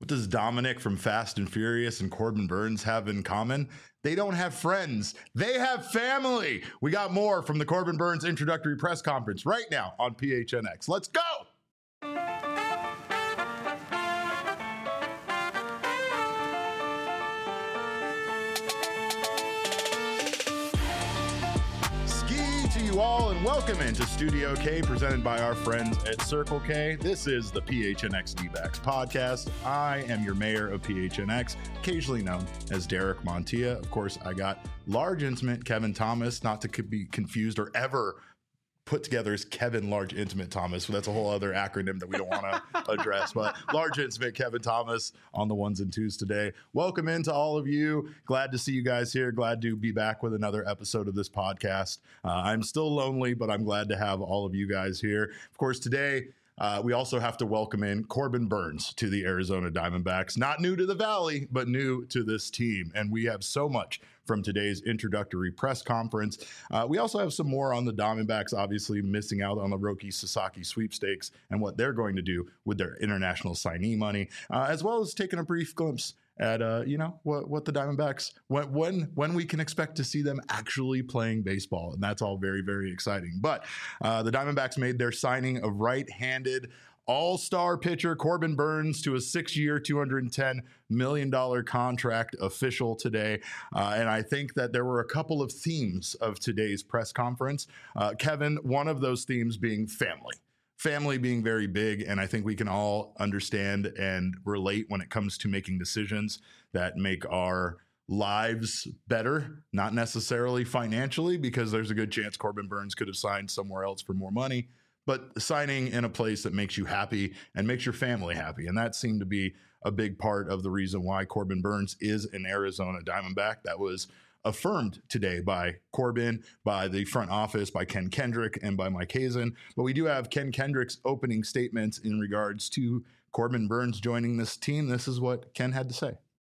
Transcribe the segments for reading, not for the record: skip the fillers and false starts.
What does Dominic from Fast and Furious and Corbin Burns have in common? They don't have friends. They have family. We got more from the Corbin Burns introductory press conference right now on PHNX. Let's go. You all, and welcome into Studio K, presented by our friends at Circle K. This is the PHNX D-backs podcast. I am your mayor of PHNX, occasionally known as Derek Montilla. Of course, I got large intimate Kevin Thomas, not to be confused or ever put together as Kevin Large Intimate Thomas. So that's a whole other acronym that we don't want to address. But Large Intimate Kevin Thomas on the ones and twos today. Welcome into all of you. Glad to see you guys here. Glad to be back with another episode of this podcast. I'm still lonely, but I'm glad to have all of you guys here. Of course, today, we also have to welcome in Corbin Burns to the Arizona Diamondbacks. Not new to the Valley, but new to this team. And we have so much from today's introductory press conference. We also have some more on the Diamondbacks, obviously missing out on the Roki Sasaki sweepstakes and what they're going to do with their international signee money, as well as taking a brief glimpse at what the Diamondbacks, when we can expect to see them actually playing baseball. And that's all very, very exciting. But the Diamondbacks made their signing of right-handed all-star pitcher Corbin Burns to a 6-year, $210 million contract official today. And I think that there were a couple of themes of today's press conference. Kevin, one of those themes being family. Family being very big, and I think we can all understand and relate when it comes to making decisions that make our lives better, not necessarily financially, because there's a good chance Corbin Burns could have signed somewhere else for more money, but signing in a place that makes you happy and makes your family happy. And that seemed to be a big part of the reason why Corbin Burns is an Arizona Diamondback. That was affirmed today by Corbin, by the front office, by Ken Kendrick, and by Mike Hazen. But we do have Ken Kendrick's opening statements in regards to Corbin Burns joining this team. This is what Ken had to say.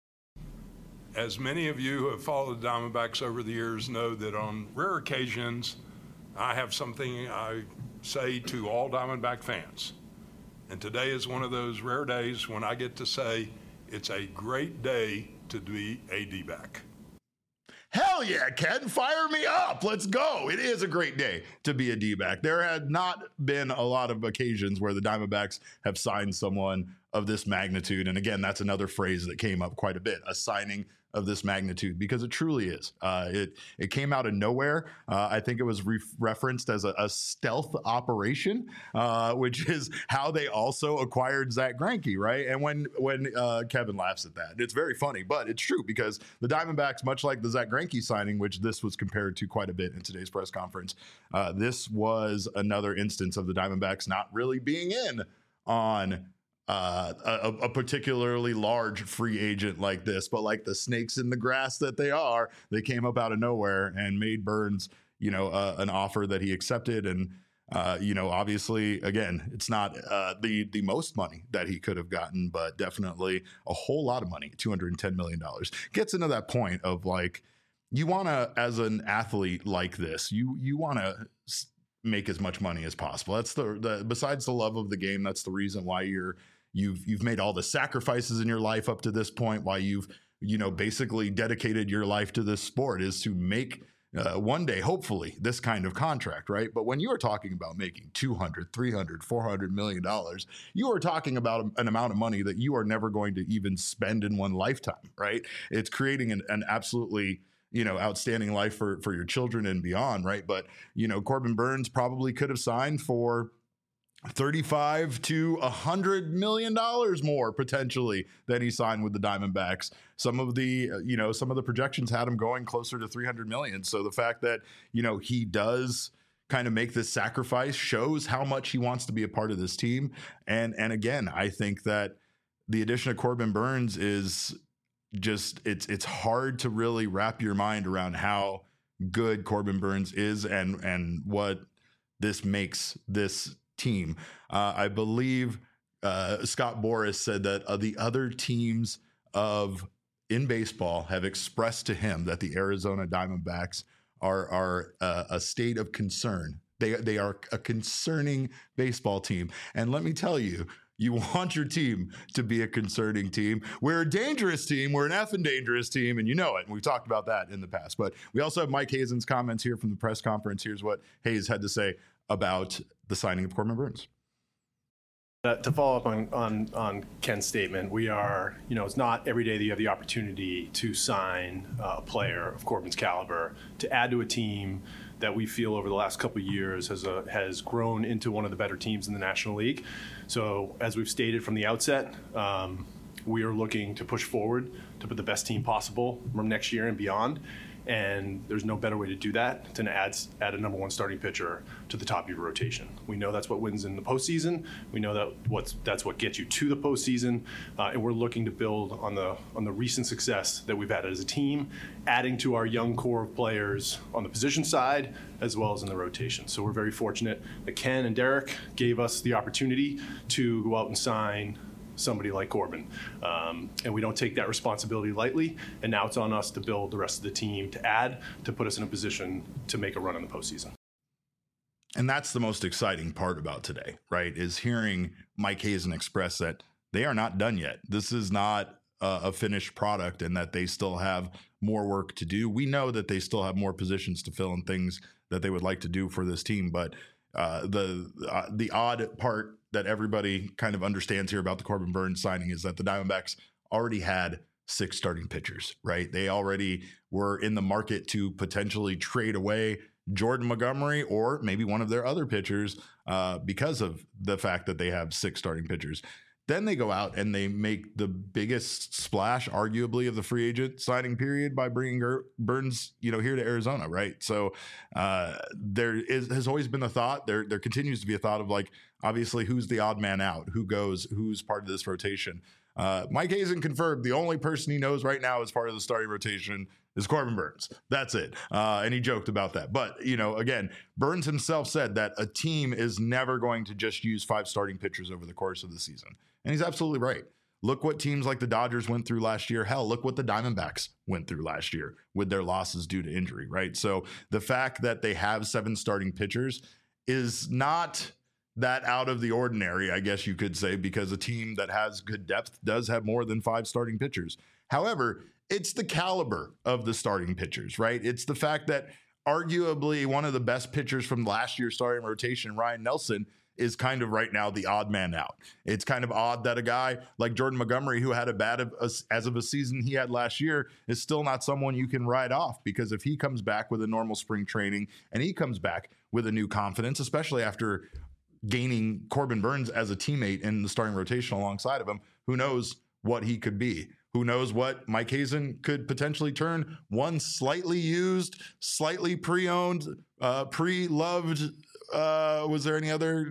As many of you who have followed the Diamondbacks over the years know that on rare occasions, I have something I say to all Diamondback fans. And today is one of those rare days when I get to say it's a great day to be a D-back. Hell yeah, Ken, fire me up. Let's go. It is a great day to be a D-back. There had not been a lot of occasions where the Diamondbacks have signed someone of this magnitude. And again, that's another phrase that came up quite a bit, a signing of this magnitude, because it truly is. It came out of nowhere. I think it was referenced as a stealth operation, which is how they also acquired Zack Greinke, right? And when Kevin laughs at that, it's very funny, but it's true, because the Diamondbacks, much like the Zack Greinke signing, which this was compared to quite a bit in today's press conference, this was another instance of the Diamondbacks not really being in on a particularly large free agent like this, but like the snakes in the grass that they are, they came up out of nowhere and made Burns, an offer that he accepted. And, obviously, again, it's not the most money that he could have gotten, but definitely a whole lot of money. $210 million gets into that point of like, you want to, as an athlete like this, you want to make as much money as possible. That's the besides the love of the game, that's the reason why you've made all the sacrifices in your life up to this point, why you've basically dedicated your life to this sport, is to make one day, hopefully, this kind of contract, right? But when you are talking about making $200, $300, $400 million, you are talking about an amount of money that you are never going to even spend in one lifetime, right? It's creating an absolutely outstanding life for your children and beyond, right? But, Corbin Burns probably could have signed for $35 to $100 million more potentially than he signed with the Diamondbacks. Some of the projections had him going closer to $300 million. So the fact that, he does kind of make this sacrifice shows how much he wants to be a part of this team. And again, I think that the addition of Corbin Burns is just, it's hard to really wrap your mind around how good Corbin Burns is and what this makes this team. I believe Scott Boras said that the other teams in baseball have expressed to him that the Arizona Diamondbacks are a state of concern. They are a concerning baseball team. And let me tell you, You want your team to be a concerning team. We're a dangerous team. We're an effing dangerous team, and you know it. And we've talked about that in the past. But we also have Mike Hazen's comments here from the press conference. Here's what Hayes had to say about the signing of Corbin Burnes. To follow up on Ken's statement, we are, it's not every day that you have the opportunity to sign a player of Corbin's caliber to add to a team that we feel over the last couple of years has grown into one of the better teams in the National League. So as we've stated from the outset, we are looking to push forward to put the best team possible from next year and beyond. And there's no better way to do that than to add a number one starting pitcher to the top of your rotation. We know that's what wins in the postseason. We know that's what gets you to the postseason, and we're looking to build on the recent success that we've had as a team, adding to our young core of players on the position side as well as in the rotation. So we're very fortunate that Ken and Derek gave us the opportunity to go out and sign somebody like Corbin. And we don't take that responsibility lightly. And now it's on us to build the rest of the team to put us in a position to make a run in the postseason. And that's the most exciting part about today, right? Is hearing Mike Hazen express that they are not done yet. This is not a finished product and that they still have more work to do. We know that they still have more positions to fill and things that they would like to do for this team. But the odd part that everybody kind of understands here about the Corbin Burnes signing is that the Diamondbacks already had 6 starting pitchers, right? They already were in the market to potentially trade away Jordan Montgomery or maybe one of their other pitchers because of the fact that they have 6 starting pitchers. Then they go out and they make the biggest splash, arguably, of the free agent signing period by bringing Burnes, here to Arizona, right? So has always been a thought. There continues to be a thought of, like, obviously, who's the odd man out? Who goes? Who's part of this rotation? Mike Hazen confirmed the only person he knows right now as part of the starting rotation is Corbin Burnes. That's it. And he joked about that. But, again, Burnes himself said that a team is never going to just use 5 starting pitchers over the course of the season. And he's absolutely right. Look what teams like the Dodgers went through last year. Hell, look what the Diamondbacks went through last year with their losses due to injury, right? So the fact that they have 7 starting pitchers is not that out of the ordinary, I guess you could say, because a team that has good depth does have more than 5 starting pitchers. However, it's the caliber of the starting pitchers, right? It's the fact that arguably one of the best pitchers from last year's starting rotation, Ryan Nelson, is kind of right now the odd man out. It's kind of odd that a guy like Jordan Montgomery, who had as of a season he had last year, is still not someone you can write off, because if he comes back with a normal spring training and he comes back with a new confidence, especially after gaining Corbin Burnes as a teammate in the starting rotation alongside of him, who knows what he could be? Who knows what Mike Hazen could potentially turn one slightly used, slightly pre-owned, pre-loved. Was there any other?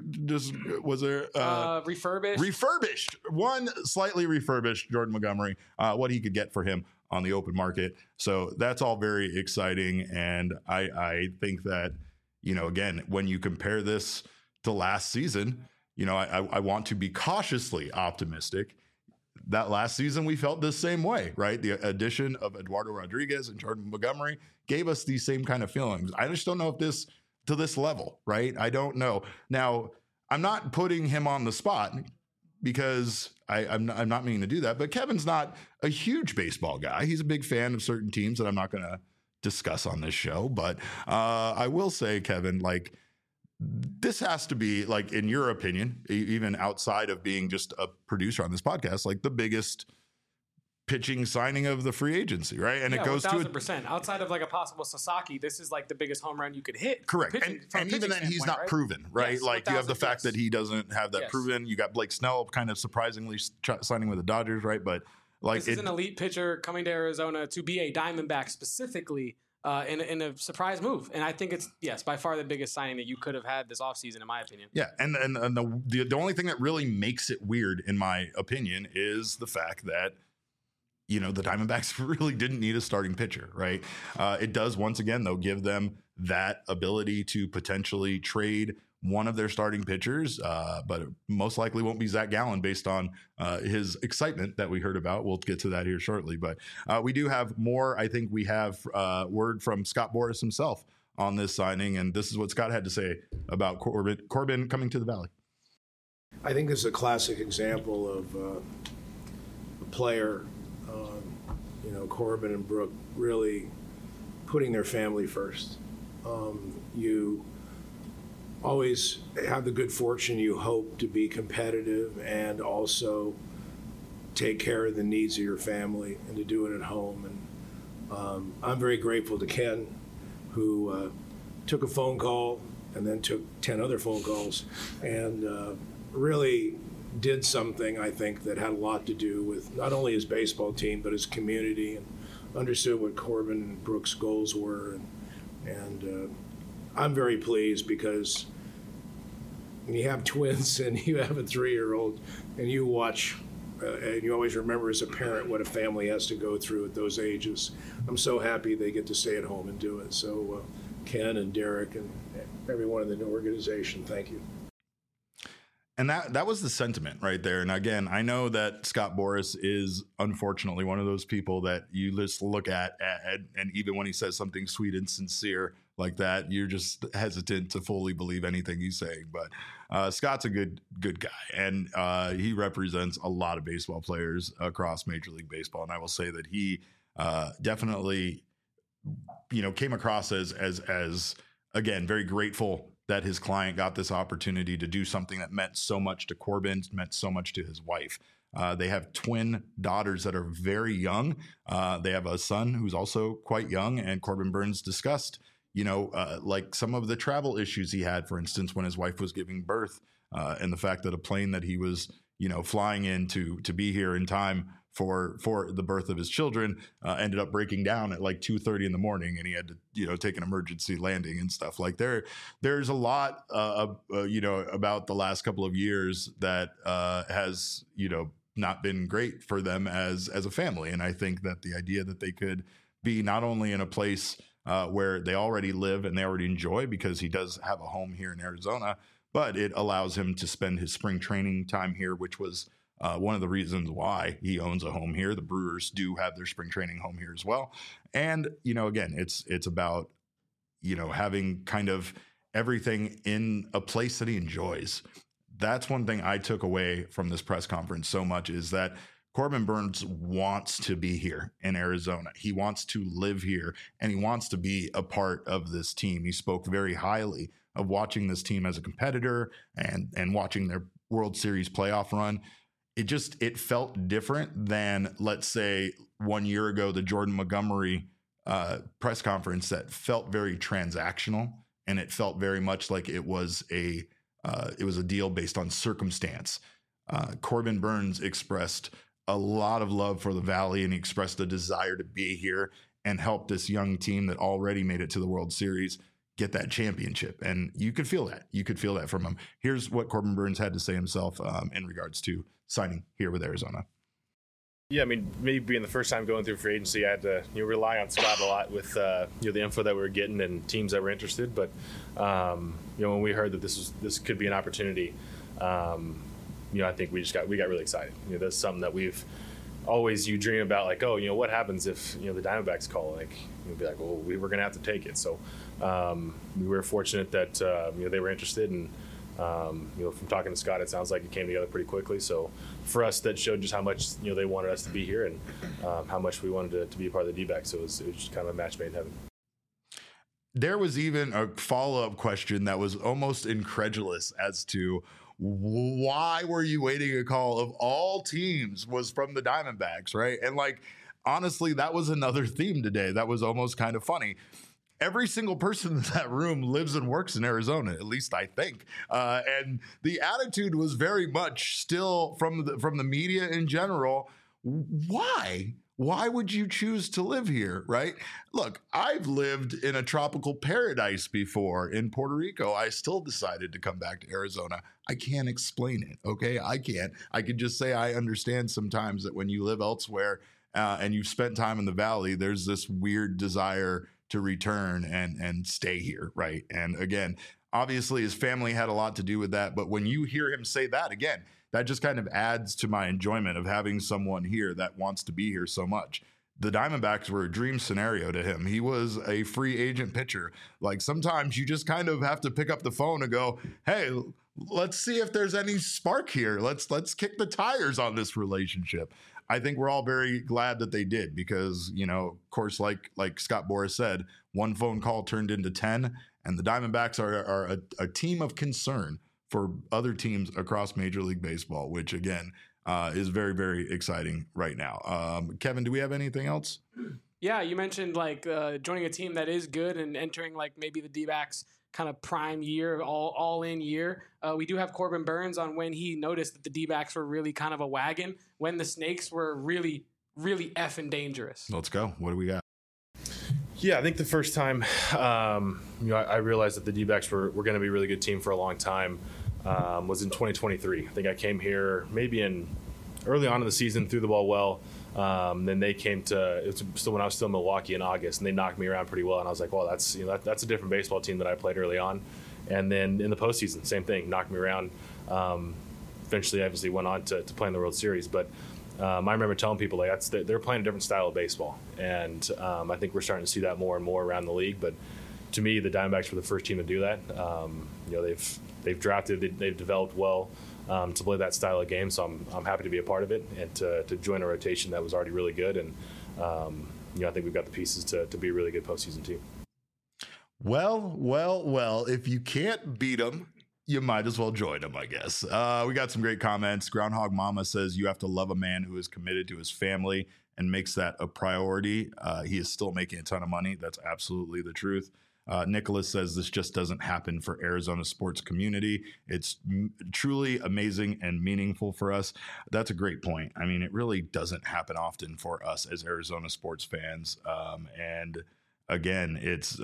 Refurbished? Refurbished. One slightly refurbished Jordan Montgomery. What he could get for him on the open market. So that's all very exciting, and I think that again, when you compare this to last season, I want to be cautiously optimistic. That last season we felt the same way, right? The addition of Eduardo Rodriguez and Jordan Montgomery gave us these same kind of feelings. I just don't know if this to this level, right? I don't know. Now, I'm not putting him on the spot because I'm not meaning to do that, but Kevin's not a huge baseball guy. He's a big fan of certain teams that I'm not going to discuss on this show, but I will say, Kevin, like, this has to be, like, in your opinion, even outside of being just a producer on this podcast, like the biggest pitching signing of the free agency, right? And it goes 1,000%. Outside of like a possible Sasaki, this is like the biggest home run you could hit. Correct. And even then, he's not proven, right? Yes, like, you have the fact that he doesn't have that proven. You got Blake Snell kind of surprisingly signing with the Dodgers, right? But like, this is an elite pitcher coming to Arizona to be a Diamondback specifically. In a surprise move. And I think it's, by far the biggest signing that you could have had this offseason, in my opinion. Yeah, and the only thing that really makes it weird, in my opinion, is the fact that, the Diamondbacks really didn't need a starting pitcher, right? It does, once again, though, give them that ability to potentially trade one of their starting pitchers, but it most likely won't be Zach Gallen based on his excitement that we heard about. We'll get to that here shortly, but we do have more. I think we have word from Scott Boras himself on this signing, and this is what Scott had to say about Corbin coming to the Valley. I think this is a classic example of a player, Corbin and Brooke, really putting their family first. You always have the good fortune, you hope, to be competitive and also take care of the needs of your family and to do it at home. And I'm very grateful to Ken, who took a phone call and then took 10 other phone calls and really did something, I think, that had a lot to do with not only his baseball team, but his community, and understood what Corbin and Brooke's goals were. And I'm very pleased, because when you have twins and you have a 3-year-old and you watch, and you always remember as a parent what a family has to go through at those ages. I'm so happy they get to stay at home and do it. So Ken and Derek and everyone in the new organization, thank you. And that was the sentiment right there. And again, I know that Scott Boras is unfortunately one of those people that you just look at and even when he says something sweet and sincere like that, you're just hesitant to fully believe anything he's saying. But Scott's a good guy, and he represents a lot of baseball players across Major League Baseball. And I will say that he definitely, came across as again, very grateful that his client got this opportunity to do something that meant so much to Corbin, meant so much to his wife. They have twin daughters that are very young. They have a son who's also quite young, and Corbin Burnes discussed, like some of the travel issues he had, for instance, when his wife was giving birth, and the fact that a plane that he was, flying in to be here in time for the birth of his children ended up breaking down at like 2:30 in the morning, and he had to take an emergency landing and stuff. Like there's a lot about the last couple of years that has not been great for them as a family. And I think that the idea that they could be not only in a place where they already live and they already enjoy, because he does have a home here in Arizona, but it allows him to spend his spring training time here, which was one of the reasons why he owns a home here. The Brewers do have their spring training home here as well. And, again, it's about, having kind of everything in a place that he enjoys. That's one thing I took away from this press conference so much, is that Corbin Burnes wants to be here in Arizona. He wants to live here, and he wants to be a part of this team. He spoke very highly of watching this team as a competitor and watching their World Series playoff run. It felt different than, let's say, 1 year ago, the Jordan Montgomery press conference that felt very transactional, and it felt very much like it was a deal based on circumstance. Corbin Burnes expressed a lot of love for the Valley, and he expressed a desire to be here and help this young team that already made it to the World Series get that championship. And you could feel that. You could feel that from him. Here's what Corbin Burnes had to say himself in regards to signing here with Arizona. Yeah, I mean, maybe being the first time going through free agency, I had to rely on Scott a lot with the info that we were getting and teams that were interested. But when we heard that this could be an opportunity, I think we got really excited. That's something that we've always dream about, like, what happens if the Diamondbacks call? Like, you'd be like, well, we were going to have to take it. So we were fortunate that they were interested, and from talking to Scott, it sounds like it came together pretty quickly. So for us, that showed just how much they wanted us to be here, and how much we wanted to be a part of the D-backs. So it was just kind of a match made in heaven. There was even a follow-up question that was almost incredulous as to why were you waiting a call of all teams was from the Diamondbacks, right? And honestly, that was another theme today that was almost kind of funny. Every single person in that room lives and works in Arizona, at least I think. And the attitude was very much still from the media in general. Why? Why would you choose to live here, right? Look, I've lived in a tropical paradise before in Puerto Rico. I still decided to come back to Arizona. I can't explain it, okay? I can't. I could just say I understand sometimes that when you live elsewhere and you've spent time in the Valley, there's this weird desire to return and stay here, right? And again, obviously his family had a lot to do with that, but when you hear him say that, again, that just kind of adds to my enjoyment of having someone here that wants to be here so much. The Diamondbacks were a dream scenario to him. He was a free agent pitcher. Like, sometimes you just kind of have to pick up the phone and go, hey, let's see if there's any spark here. Let's kick the tires on this relationship. I think we're all very glad that they did because, of course, like Scott Boras said, one phone call turned into 10, and the Diamondbacks are a team of concern for other teams across Major League Baseball, which, again, is very, very exciting right now. Kevin, do we have anything else? Yeah, you mentioned joining a team that is good and entering maybe the D-backs kind of prime year, all in year. We do have Corbin Burns on when he noticed that the D-backs were really kind of a wagon, when the Snakes were really, really effing dangerous. Let's go. What do we got? Yeah, I think the first time I realized that the D-backs were going to be a really good team for a long time was in 2023. I think I came here maybe early on in the season, threw the ball well. Then they came to, it was still when I was still in Milwaukee in August, and they knocked me around pretty well. And I was like, well, that's a different baseball team that I played early on. And then in the postseason, same thing, knocked me around. Eventually, obviously, went on to play in the World Series. But I remember telling people they're playing a different style of baseball, and I think we're starting to see that more and more around the league. But to me, the Diamondbacks were the first team to do that. They've drafted, they've developed well. To play that style of game, so I'm happy to be a part of it and to join a rotation that was already really good, and I think we've got the pieces to be a really good postseason team. Well, if you can't beat them, you might as well join them, I guess. We got some great comments. Groundhog Mama says you have to love a man who is committed to his family and makes that a priority. He is still making a ton of money. That's absolutely the truth. Nicholas says this just doesn't happen for Arizona sports community. It's truly amazing and meaningful for us. That's a great point. I mean, it really doesn't happen often for us as Arizona sports fans. And again, it's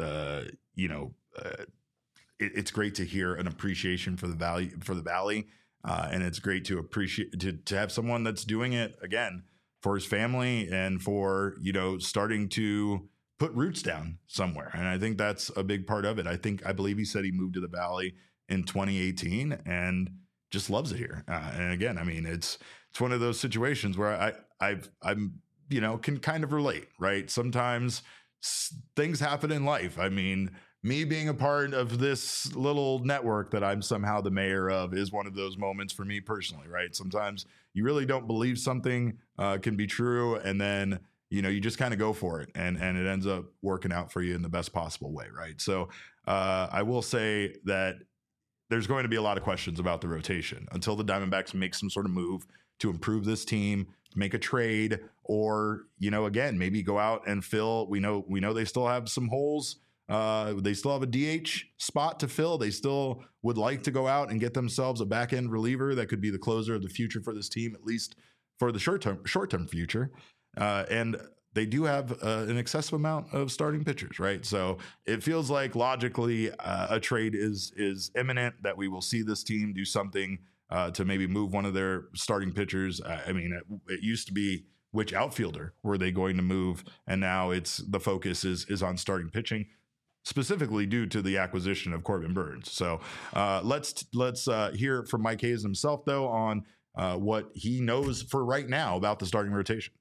it's great to hear an appreciation for the Valley, and it's great to appreciate to have someone that's doing it again for his family and for starting to put roots down somewhere. And I think that's a big part of it. I believe he said he moved to the Valley in 2018 and just loves it here. And again, I mean, it's one of those situations where I'm can kind of relate, right? Sometimes things happen in life. I mean, me being a part of this little network that I'm somehow the mayor of is one of those moments for me personally, right? Sometimes you really don't believe something can be true, and then you just kind of go for it, and it ends up working out for you in the best possible way, right? So I will say that there's going to be a lot of questions about the rotation until the Diamondbacks make some sort of move to improve this team, make a trade, or again, maybe go out and fill. We know they still have some holes. They still have a DH spot to fill. They still would like to go out and get themselves a back end reliever that could be the closer of the future for this team, at least for the short term future. And they do have an excessive amount of starting pitchers, right? So it feels like logically a trade is imminent, that we will see this team do something to maybe move one of their starting pitchers. I mean, it used to be which outfielder were they going to move, and now the focus is on starting pitching, specifically due to the acquisition of Corbin Burns. So let's hear from Mike Hazen himself, though, on what he knows for right now about the starting rotation.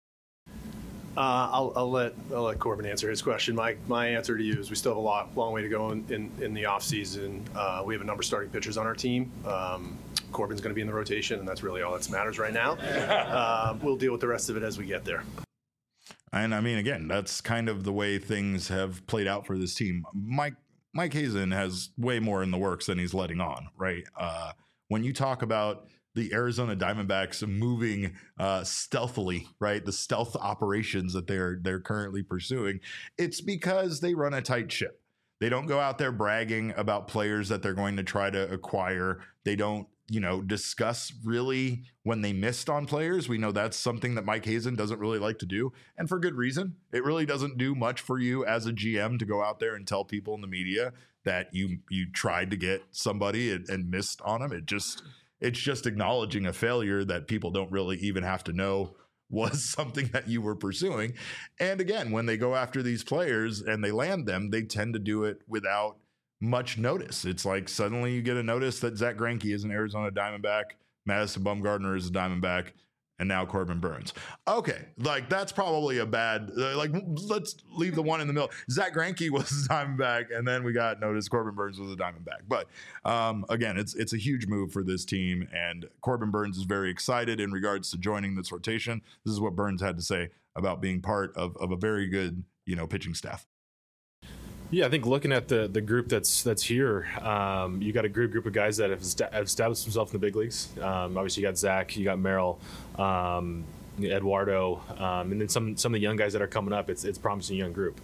I'll let Corbin answer his question. My answer to you is we still have a long way to go in the offseason. We have a number of starting pitchers on our team. Corbin's going to be in the rotation, and that's really all that matters right now. We'll deal with the rest of it as we get there. And I mean, again, that's kind of the way things have played out for this team. Mike Hazen has way more in the works than he's letting on, right? When you talk about the Arizona Diamondbacks moving stealthily, right? The stealth operations that they're currently pursuing, it's because they run a tight ship. They don't go out there bragging about players that they're going to try to acquire. They don't, discuss really when they missed on players. We know that's something that Mike Hazen doesn't really like to do, and for good reason. It really doesn't do much for you as a GM to go out there and tell people in the media that you tried to get somebody and missed on them. It's just acknowledging a failure that people don't really even have to know was something that you were pursuing. And again, when they go after these players and they land them, they tend to do it without much notice. It's like suddenly you get a notice that Zach Greinke is an Arizona Diamondback, Madison Bumgarner is a Diamondback, and now Corbin Burns. Okay, like that's probably a bad. Like let's leave the one in the middle. Zach Greinke was a Diamondback, and then we got noticed Corbin Burns was a Diamondback. But again, it's a huge move for this team, and Corbin Burns is very excited in regards to joining this rotation. This is what Burns had to say about being part of a very good pitching staff. Yeah, I think looking at the group that's here, you got a group of guys that have established themselves in the big leagues. Obviously, you got Zach, you got Merrill, Eduardo, and then some of the young guys that are coming up. It's a promising young group.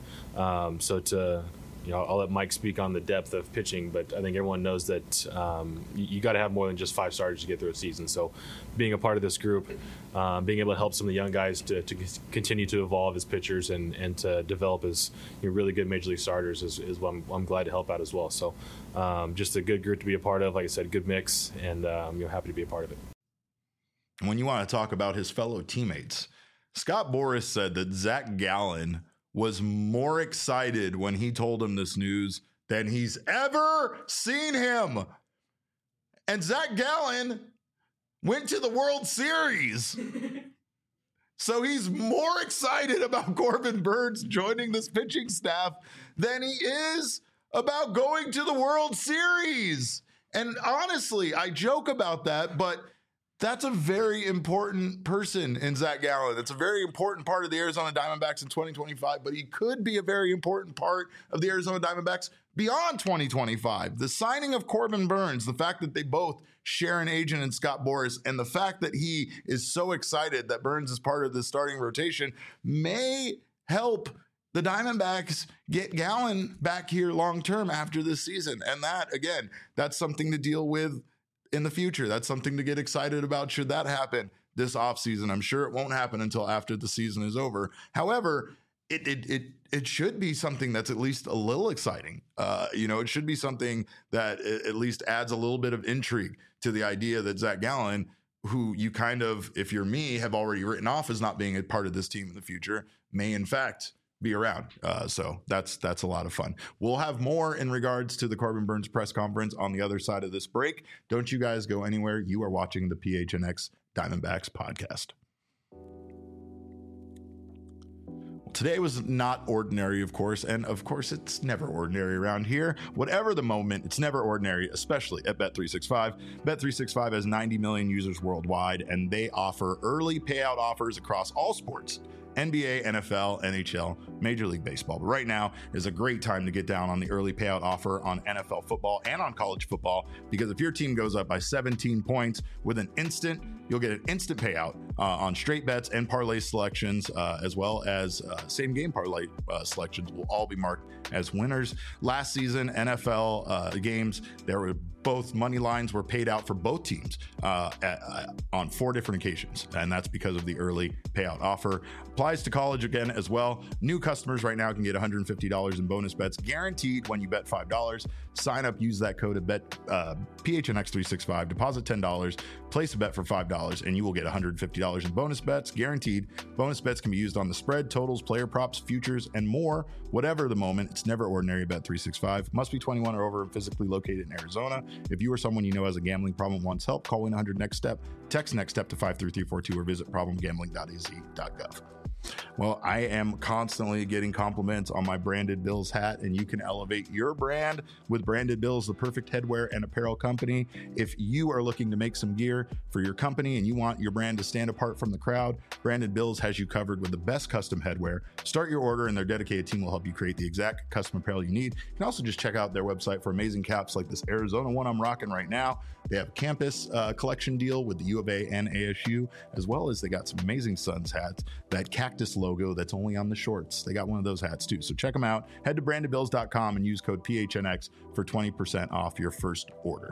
I'll let Mike speak on the depth of pitching, but I think everyone knows that you got to have more than just 5 starters to get through a season. So being a part of this group, being able to help some of the young guys to continue to evolve as pitchers and to develop as really good major league starters is what I'm glad to help out as well. So just a good group to be a part of. Like I said, good mix, and happy to be a part of it. When you want to talk about his fellow teammates, Scott Boras said that Zach Gallen was more excited when he told him this news than he's ever seen him. And Zach Gallen went to the World Series. So he's more excited about Corbin Burns joining this pitching staff than he is about going to the World Series. And honestly, I joke about that, but that's a very important person in Zach Gallen. That's a very important part of the Arizona Diamondbacks in 2025, but he could be a very important part of the Arizona Diamondbacks beyond 2025. The signing of Corbin Burns, the fact that they both share an agent in Scott Boras, and the fact that he is so excited that Burns is part of the starting rotation may help the Diamondbacks get Gallen back here long-term after this season. And that, again, that's something to deal with in the future. That's something to get excited about should that happen this offseason. I'm sure it won't happen until after the season is over. However, it should be something that's at least a little exciting. It should be something that at least adds a little bit of intrigue to the idea that Zach Gallen, who you kind of, if you're me, have already written off as not being a part of this team in the future, may in fact be around. So that's a lot of fun. We'll have more in regards to the Corbin Burns press conference on the other side of this break. Don't you guys go anywhere. You are watching the PHNX Diamondbacks podcast. Today was not ordinary, of course, and of course it's never ordinary around here. Whatever the moment, it's never ordinary, especially at Bet365. Bet365 has 90 million users worldwide, and they offer early payout offers across all sports. NBA, NFL, NHL, Major League Baseball. But right now is a great time to get down on the early payout offer on NFL football and on college football, because if your team goes up by 17 points you'll get an instant payout on straight bets and parlay selections, as well as same game parlay selections will all be marked as winners. Last season, NFL games, there were both money lines were paid out for both teams on 4 different occasions, and that's because of the early payout offer. Applies to college again as well. New customers right now can get $150 in bonus bets guaranteed when you bet $5. Sign up, use that code PHNX365, deposit $10, place a bet for $5, and you will get $150 in bonus bets guaranteed. Bonus bets can be used on the spread, totals, player props, futures, and more. Whatever the moment, it's never ordinary. Bet365 must be 21 or over and physically located in Arizona. If you or someone you know has a gambling problem wants help, call 1-800-NEXT-STEP, text NEXT STEP to 53342, or visit problemgambling.az.gov. Well, I am constantly getting compliments on my Branded Bills hat, and you can elevate your brand with Branded Bills, the perfect headwear and apparel company. If you are looking to make some gear for your company and you want your brand to stand apart from the crowd, Branded Bills has you covered with the best custom headwear. Start your order, and their dedicated team will help you create the exact custom apparel you need. You can also just check out their website for amazing caps like this Arizona one I'm rocking right now. They have a campus collection deal with the U of A and ASU, as well as they got some amazing Suns hats, that cactus logo that's only on the shorts. They got one of those hats too. So check them out. Head to brandedbills.com and use code PHNX for 20% off your first order.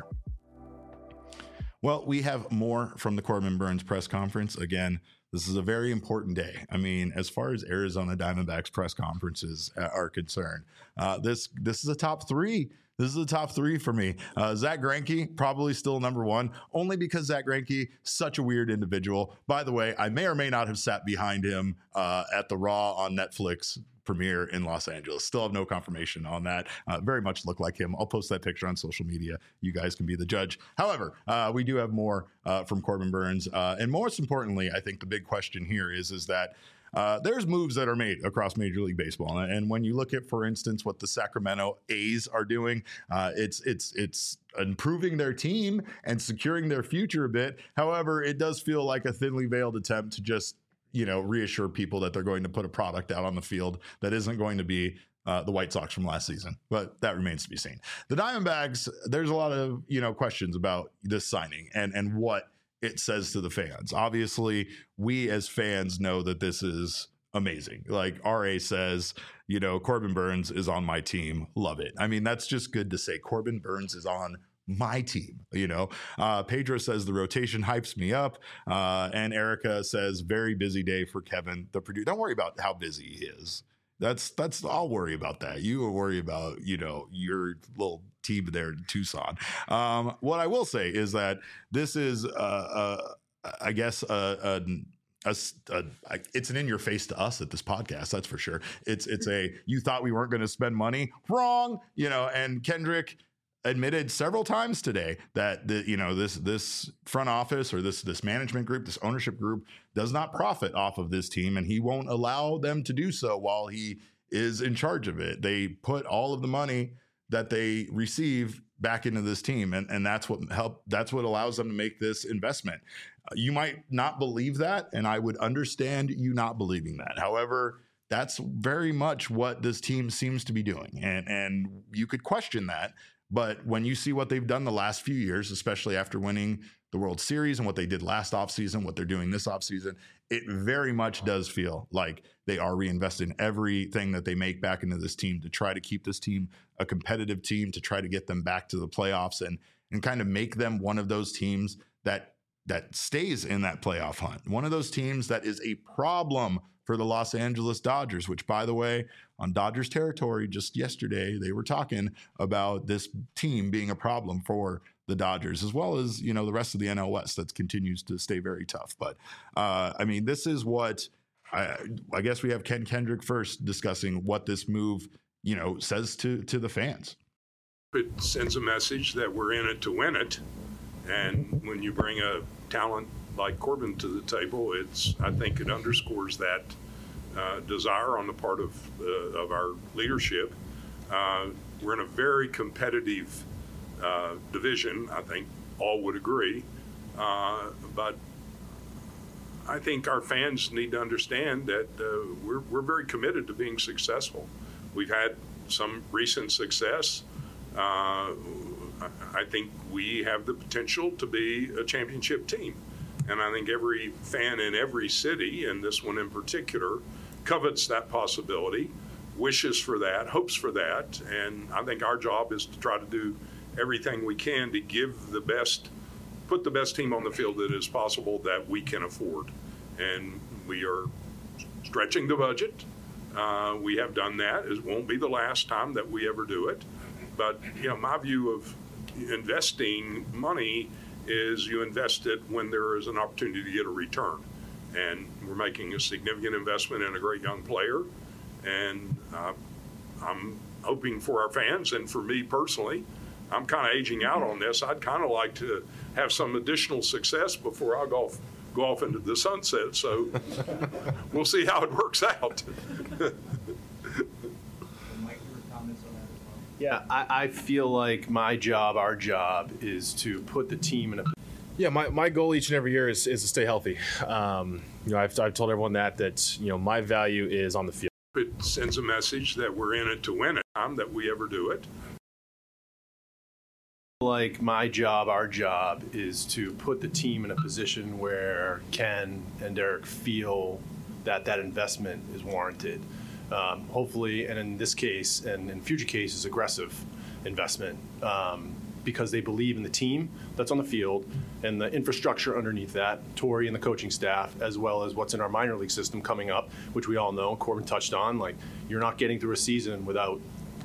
Well, we have more from the Corbin Burns press conference. Again, this is a very important day. I mean, as far as Arizona Diamondbacks press conferences are concerned, this is a top 3 This is the top three for me. Zach Greinke, probably still number one, only because Zach Greinke, such a weird individual. By the way, I may or may not have sat behind him at the Raw on Netflix premiere in Los Angeles. Still have no confirmation on that. Very much look like him. I'll post that picture on social media. You guys can be the judge. However, we do have more from Corbin Burnes. And most importantly, I think the big question here is that there's moves that are made across Major League Baseball. And when you look at, for instance, what the Sacramento A's are doing, it's improving their team and securing their future a bit. However, it does feel like a thinly veiled attempt to just reassure people that they're going to put a product out on the field that isn't going to be the White Sox from last season, but that remains to be seen. The Diamondbacks, there's a lot of, questions about this signing and what it says to the fans. Obviously, we as fans know that this is amazing. Like RA says, Corbin Burnes is on my team. Love it. I mean, that's just good to say. Corbin Burnes is on my team. Pedro says the rotation hypes me up. And Erica says very busy day for Kevin, the producer. Don't worry about how busy he is. That's I'll worry about that. You will worry about, your little team there in Tucson. What I will say is that this is, I guess, it's an in your face to us at this podcast. That's for sure. It's you thought we weren't going to spend money. Wrong. And Kendrick admitted several times today that this front office or this management group, this ownership group does not profit off of this team, and he won't allow them to do so while he is in charge of it. They put all of the money that they receive back into this team, and that's what allows them to make this investment. You might not believe that, and I would understand you not believing that. However, that's very much what this team seems to be doing, and you could question that. But when you see what they've done the last few years, especially after winning the World Series and what they did last offseason, what they're doing this offseason, it very much does feel like they are reinvesting everything that they make back into this team to try to keep this team a competitive team, to try to get them back to the playoffs and kind of make them one of those teams that stays in that playoff hunt. One of those teams that is a problem for the Los Angeles Dodgers, which, by the way, on Dodgers territory just yesterday, they were talking about this team being a problem for the Dodgers, as well as, the rest of the NL West that continues to stay very tough. But, this is what I guess we have Ken Kendrick first discussing what this move, says to the fans. It sends a message that we're in it to win it. And when you bring a talent like Corbin to the table, I think it underscores that desire on the part of our leadership. We're in a very competitive division. I think all would agree. But I think our fans need to understand that we're very committed to being successful. We've had some recent success. I think we have the potential to be a championship team. And I think every fan in every city, and this one in particular, covets that possibility, wishes for that, hopes for that. And I think our job is to try to do everything we can to put the best team on the field that is possible that we can afford. And we are stretching the budget. We have done that. It won't be the last time that we ever do it. But, my view of investing money is you invest it when there is an opportunity to get a return. And we're making a significant investment in a great young player. And I'm hoping for our fans and for me personally, I'm kind of aging out on this. I'd kind of like to have some additional success before I go off into the sunset. So we'll see how it works out. Yeah, I feel like our job is to put the team in a. Yeah, my goal each and every year is to stay healthy. I've told everyone that my value is on the field. It sends a message that we're in it to win it. That we ever do it. Like our job is to put the team in a position where Ken and Derek feel that investment is warranted. Hopefully, and in this case, and in future cases, aggressive investment because they believe in the team that's on the field and the infrastructure underneath that, Torey and the coaching staff, as well as what's in our minor league system coming up, which we all know, Corbin touched on, like you're not getting through a season without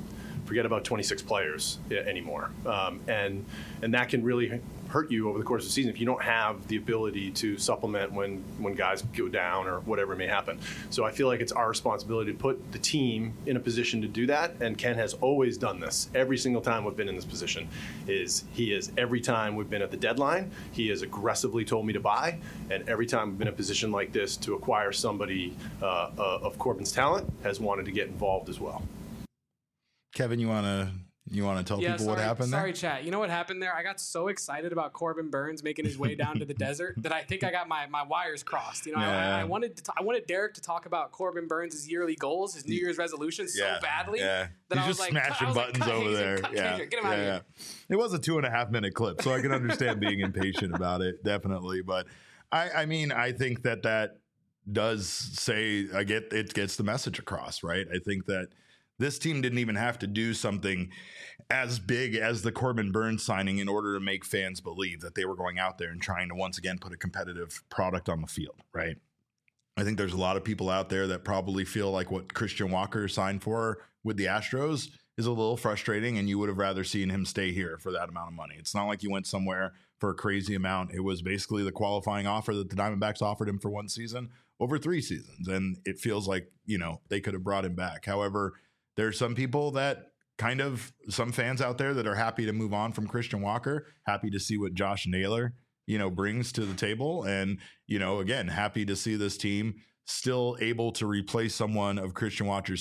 forget about 26 players anymore. And that can really hurt you over the course of the season if you don't have the ability to supplement when guys go down or whatever may happen. So I feel like it's our responsibility to put the team in a position to do that, and Ken has always done this. Every single time we've been in this position, every time we've been at the deadline, he has aggressively told me to buy, and every time we've been in a position like this to acquire somebody of Corbin's talent, has wanted to get involved as well. Kevin, you want to tell people what happened there? Sorry, chat. You know what happened there? I got so excited about Corbin Burns making his way down to the desert that I think I got my wires crossed. You know, Yeah. I wanted Derek to talk about Corbin Burns' yearly goals, his New Year's resolutions so badly that He's I was just like, smashing buttons cut over Hazen, there. cut Yeah, Kendrick, get him out of here. It was a 2.5-minute clip, so I can understand being impatient about it, definitely. But I mean, I think that does say it gets the message across, right? I think that this team didn't even have to do something as big as the Corbin Burns signing in order to make fans believe that they were going out there and trying to once again put a competitive product on the field, right? I think there's a lot of people out there that probably feel like what Christian Walker signed for with the Astros is a little frustrating, and you would have rather seen him stay here for that amount of money. It's not like he went somewhere for a crazy amount. It was basically the qualifying offer that the Diamondbacks offered him for one season over 3 seasons, and it feels like, they could have brought him back. However, there's some people some fans out there that are happy to move on from Christian Walker, happy to see what Josh Naylor, brings to the table. And, again, happy to see this team still able to replace someone of Christian Walker's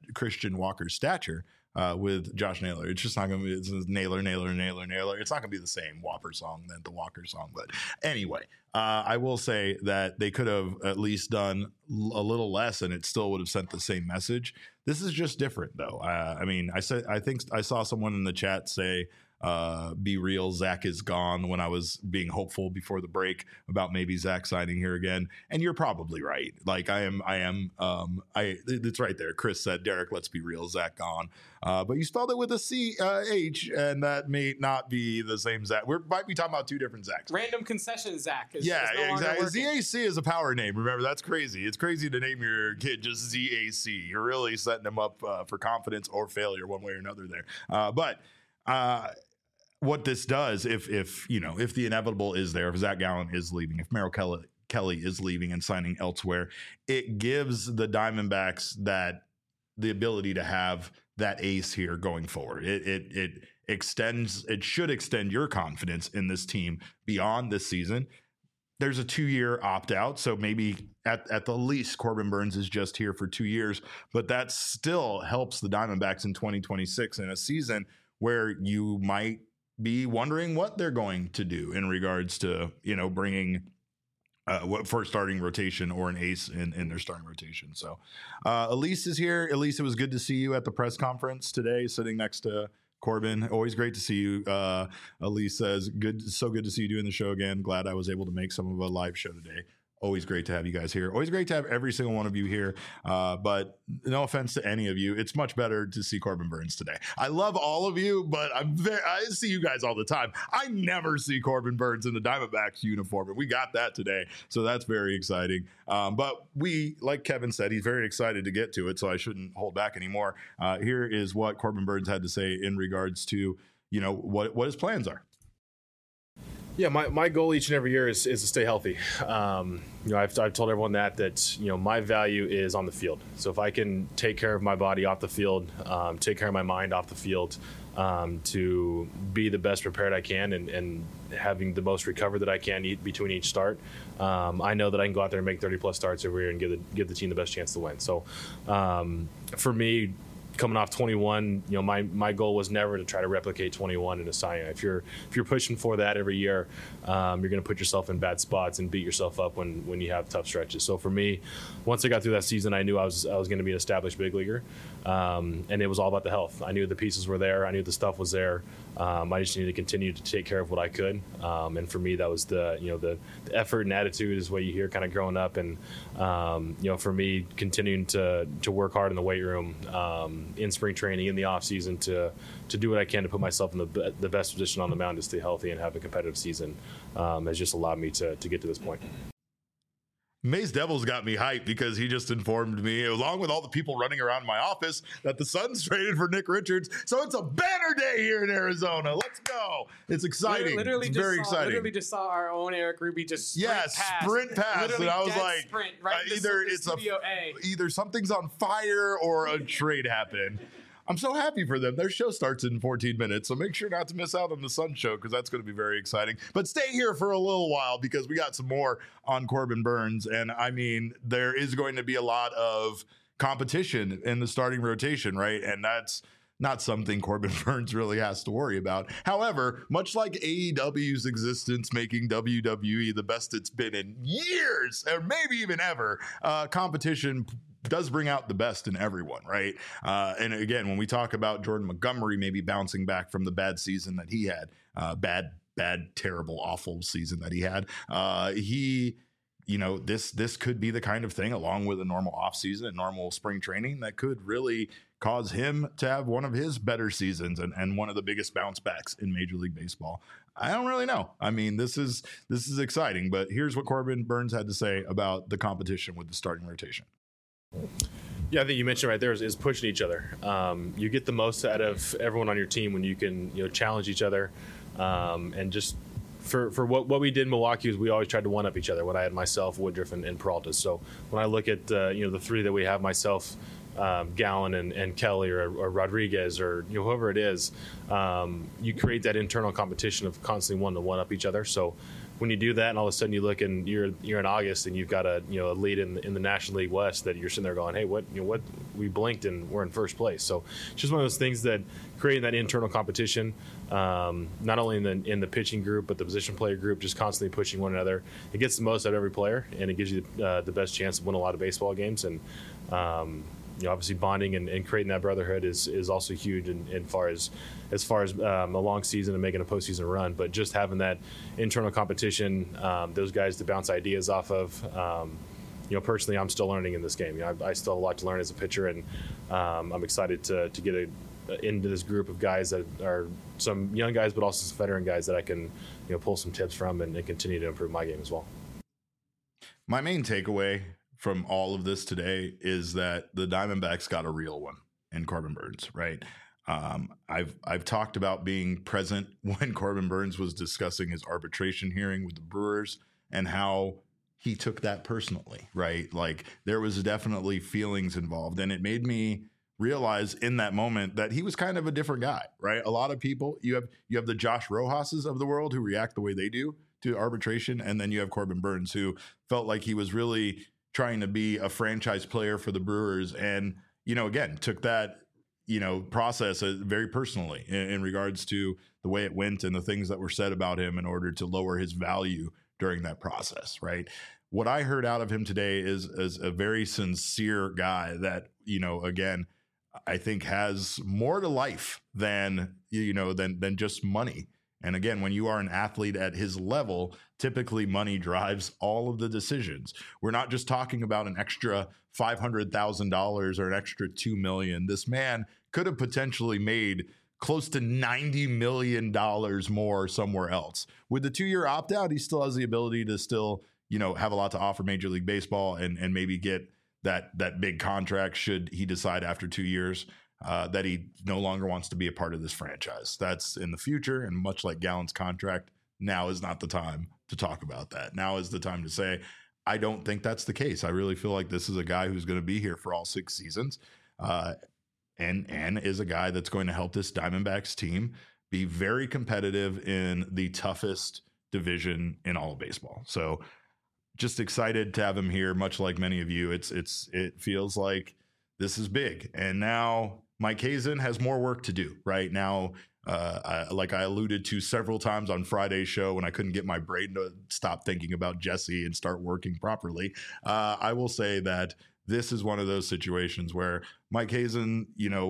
stature with Josh Naylor. It's just not going to be, it's Naylor. It's not going to be the same Whopper song than the Walker song. But anyway, I will say that they could have at least done a little less and it still would have sent the same message. This is just different, though. I think I saw someone in the chat say, be real, Zach is gone, when I was being hopeful before the break about maybe Zach signing here again. And you're probably right. Like it's right there. Chris said, Derek, let's be real, Zach gone. But you spelled it with a C-H, and that may not be the same Zach. We might be talking about 2 different Zachs. Random concession Zach is exactly. ZAC is a power name. Remember, that's crazy. It's crazy to name your kid just ZAC. You're really setting them up for confidence or failure one way or another there. But what this does, if the inevitable is there, if Zach Gallen is leaving, if Merrill Kelly is leaving and signing elsewhere, it gives the Diamondbacks the ability to have that ace here going forward. It should extend your confidence in this team beyond this season. There's a 2-year opt-out, so maybe at the least Corbin Burns is just here for 2 years, but that still helps the Diamondbacks in 2026 in a season where you might be wondering what they're going to do in regards to, bringing for starting rotation or an ace in their starting rotation. So Elise is here. Elise, it was good to see you at the press conference today, sitting next to Corbin. Always great to see you. Elise says, so good to see you doing the show again. Glad I was able to make some of a live show today. Always great to have you guys here. Always great to have every single one of you here. But no offense to any of you, it's much better to see Corbin Burns today. I love all of you, but I see you guys all the time. I never see Corbin Burns in the Diamondbacks uniform, and we got that today. So that's very exciting. But like Kevin said, he's very excited to get to it, so I shouldn't hold back anymore. Here is what Corbin Burns had to say in regards to, what his plans are. Yeah, my goal each and every year is to stay healthy. I've told everyone that my value is on the field. So if I can take care of my body off the field, take care of my mind off the field, to be the best prepared I can and having the most recovered that I can between each start, I know that I can go out there and make 30-plus starts every year and give the team the best chance to win. So for me, coming off 21, my goal was never to try to replicate 21 in a Cy Young. If you're pushing for that every year, you're going to put yourself in bad spots and beat yourself up when you have tough stretches. So for me, once I got through that season, I knew I was going to be an established big leaguer, and it was all about the health. I knew the pieces were there. I knew the stuff was there. I just needed to continue to take care of what I could, and for me, that was the effort and attitude is what you hear kind of growing up, and for me, continuing to work hard in the weight room, in spring training, in the off season, to do what I can to put myself in the best position on the mound to stay healthy and have a competitive season, has just allowed me to get to this point. Mace Devils got me hyped because he just informed me, along with all the people running around my office, that the Suns traded for Nick Richards. So it's a banner day here in Arizona. Let's go. It's exciting. It's very exciting. Literally just saw our own Eric Ruby just sprint past. And I was like, sprint, right either something's on fire or a trade happened. I'm so happy for them. Their show starts in 14 minutes, so make sure not to miss out on the Sun show because that's going to be very exciting. But stay here for a little while because we got some more on Corbin Burnes. And I mean, there is going to be a lot of competition in the starting rotation, right? And that's not something Corbin Burnes really has to worry about. However, much like AEW's existence making WWE the best it's been in years, or maybe even ever, competition does bring out the best in everyone, right? And again, when we talk about Jordan Montgomery maybe bouncing back from the bad season that he had, bad, terrible, awful season that he had, this could be the kind of thing, along with a normal offseason and normal spring training, that could really cause him to have one of his better seasons and one of the biggest bounce backs in Major League Baseball. I don't really know. I mean, this is exciting, but here's what Corbin Burnes had to say about the competition with the starting rotation. Yeah, I think you mentioned right there is pushing each other. You get the most out of everyone on your team when you can challenge each other, and just for what we did in Milwaukee is we always tried to one up each other. When I had myself, Woodruff, and Peralta. So when I look at the three that we have, myself, Gallen and Kelly or Rodriguez or whoever it is, you create that internal competition of constantly wanting to one up each other. So when you do that, and all of a sudden you look and you're in August and you've got a lead in the National League West, that you're sitting there going, hey, what we blinked and we're in first place. So it's just one of those things that creating that internal competition, not only in the pitching group but the position player group, just constantly pushing one another. It gets the most out of every player, and it gives you the best chance to win a lot of baseball games. And obviously bonding and creating that brotherhood is also huge as far as a long season and making a postseason run. But just having that internal competition, those guys to bounce ideas off of. Personally, I'm still learning in this game. I still have a lot to learn as a pitcher, and I'm excited to get into this group of guys that are some young guys, but also some veteran guys that I can pull some tips from and continue to improve my game as well. My main takeaway from all of this today is that the Diamondbacks got a real one in Corbin Burnes, right? I've talked about being present when Corbin Burnes was discussing his arbitration hearing with the Brewers and how he took that personally, right? Like there was definitely feelings involved, and it made me realize in that moment that he was kind of a different guy, right? A lot of people, you have the Josh Rojas's of the world who react the way they do to arbitration, and then you have Corbin Burnes who felt like he was really trying to be a franchise player for the Brewers, and again took that process very personally in regards to the way it went and the things that were said about him in order to lower his value during that process, right? What I heard out of him today is a very sincere guy that again I think has more to life than just money. And again, when you are an athlete at his level, typically money drives all of the decisions. We're not just talking about an extra $500,000 or an extra $2 million. This man could have potentially made close to $90 million more somewhere else. With the 2-year opt-out, he still has the ability to still, have a lot to offer Major League Baseball and maybe get that big contract should he decide after 2 years that he no longer wants to be a part of this franchise. That's in the future, and much like Gallen's contract, now is not the time to talk about that. Now is the time to say, I don't think that's the case. I really feel like this is a guy who's going to be here for all 6 seasons, and is a guy that's going to help this Diamondbacks team be very competitive in the toughest division in all of baseball. So just excited to have him here, much like many of you. It feels like this is big. And now Mike Hazen has more work to do right now. Like I alluded to several times on Friday's show when I couldn't get my brain to stop thinking about Jesse and start working properly. I will say that this is one of those situations where Mike Hazen,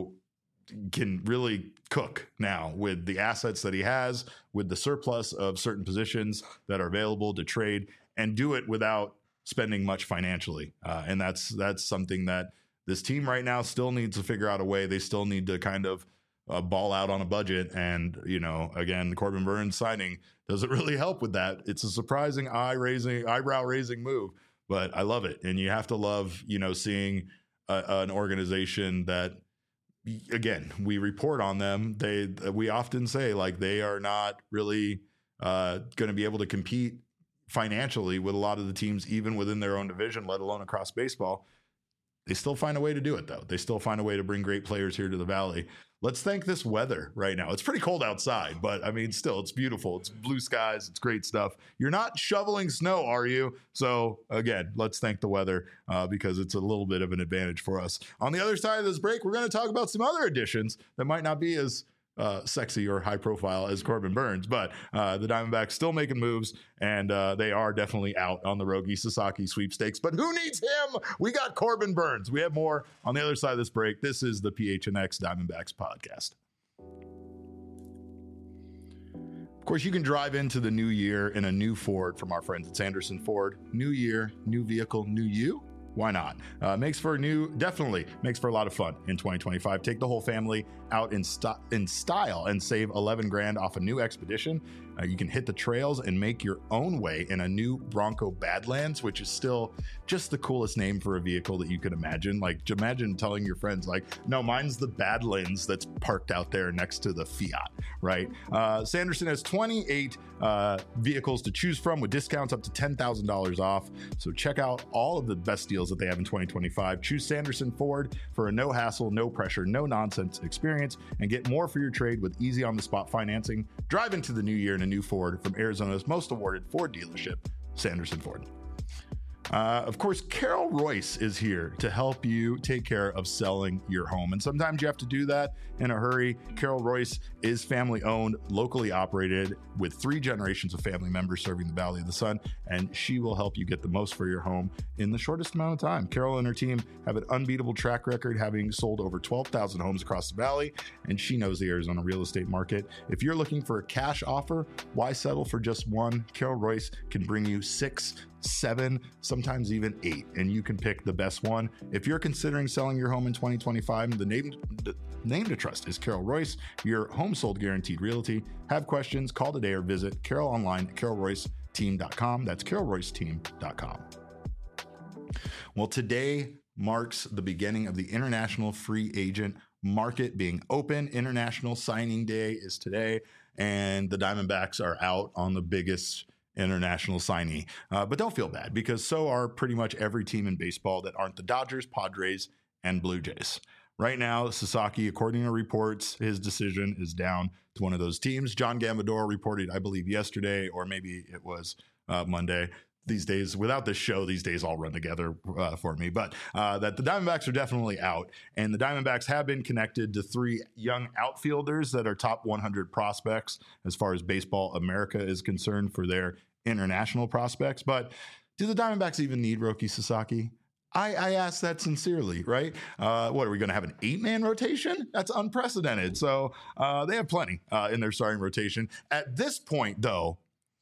can really cook now with the assets that he has, with the surplus of certain positions that are available to trade, and do it without spending much financially. And that's something that this team right now still needs to figure out a way. They still need to kind of ball out on a budget. And, again, the Corbin Burnes signing doesn't really help with that. It's a surprising eyebrow raising move, but I love it. And you have to love, seeing an organization that, again, we report on them. We often say like they are not really going to be able to compete financially with a lot of the teams, even within their own division, let alone across baseball. They still find a way to do it, though. They still find a way to bring great players here to the Valley. Let's thank this weather right now. It's pretty cold outside, but I mean, still, it's beautiful. It's blue skies. It's great stuff. You're not shoveling snow, are you? So again, let's thank the weather because it's a little bit of an advantage for us. On the other side of this break, we're going to talk about some other additions that might not be as sexy or high profile as Corbin Burnes, but the Diamondbacks still making moves, and they are definitely out on the Rogi Sasaki sweepstakes. But who needs him? We got Corbin Burnes. We have more on the other side of this break. This is the PHNX Diamondbacks podcast. Of course, you can drive into the new year in a new Ford from our friends at Sanderson Ford. New year, new vehicle, new you. Why not? Definitely makes for a lot of fun in 2025. Take the whole family out in style and save 11 grand off a new Expedition. You can hit the trails and make your own way in a new Bronco Badlands, which is still just the coolest name for a vehicle that you could imagine. Like, imagine telling your friends, like, no, mine's the Badlands that's parked out there next to the Fiat, right? Sanderson has 28 vehicles to choose from with discounts up to $10,000 off. So check out all of the best deals that they have in 2025. Choose Sanderson Ford for a no hassle, no pressure, no nonsense experience, and get more for your trade with easy on the spot financing. Drive into the new year in a new Ford from Arizona's most awarded Ford dealership, Sanderson Ford. Of course, Carol Royce is here to help you take care of selling your home. And sometimes you have to do that in a hurry. Carol Royce is family owned, locally operated, with 3 generations of family members serving the Valley of the Sun. And she will help you get the most for your home in the shortest amount of time. Carol and her team have an unbeatable track record, having sold over 12,000 homes across the Valley. And she knows the Arizona real estate market. If you're looking for a cash offer, why settle for just one? Carol Royce can bring you 6, 7, sometimes even 8, and you can pick the best one. If you're considering selling your home in 2025, the name to trust is Carol Royce, your home sold guaranteed realty. Have questions, call today or visit Carol online at carolroyceteam.com. That's carolroyceteam.com. Well, today marks the beginning of the international free agent market being open. International signing day is today, and the Diamondbacks are out on the biggest international signee. But don't feel bad, because so are pretty much every team in baseball that aren't the Dodgers, Padres, and Blue Jays. Right now, Sasaki, according to reports, his decision is down to one of those teams. John Gambador reported, I believe, yesterday, or maybe it was Monday. These days, without this show, these days all run together for me. But that the Diamondbacks are definitely out. And the Diamondbacks have been connected to 3 young outfielders that are top 100 prospects as far as Baseball America is concerned for their international prospects. But do the Diamondbacks even need Roki Sasaki? I ask that sincerely, right? What, are we going to have an 8-man rotation? That's unprecedented. So they have plenty in their starting rotation. At this point, though,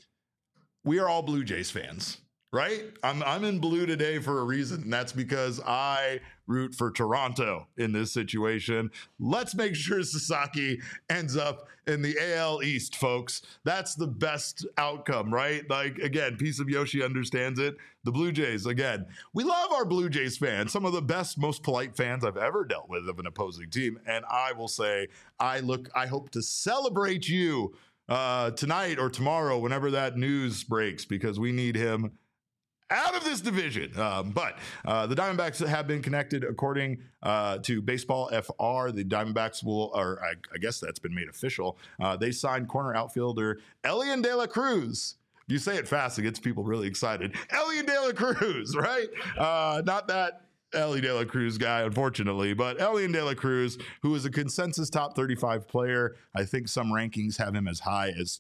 we are all Blue Jays fans, right? I'm in blue today for a reason, and that's because I root for Toronto in this situation. Let's make sure Sasaki ends up in the AL East, folks. That's the best outcome, right? Like, again, Piece of Yoshi understands it. The Blue Jays, again, we love our Blue Jays fans, some of the best, most polite fans I've ever dealt with of an opposing team. And I will say, I hope to celebrate you tonight or tomorrow, whenever that news breaks, because we need him out of this division. But the Diamondbacks have been connected, according to Baseball FR. The Diamondbacks will, or I guess that's been made official. They signed corner outfielder Elian De La Cruz. You say it fast, it gets people really excited. Elian De La Cruz, right? Not that Ellie De La Cruz guy, unfortunately, but Elian De La Cruz, who is a consensus top 35 player. I think some rankings have him as high as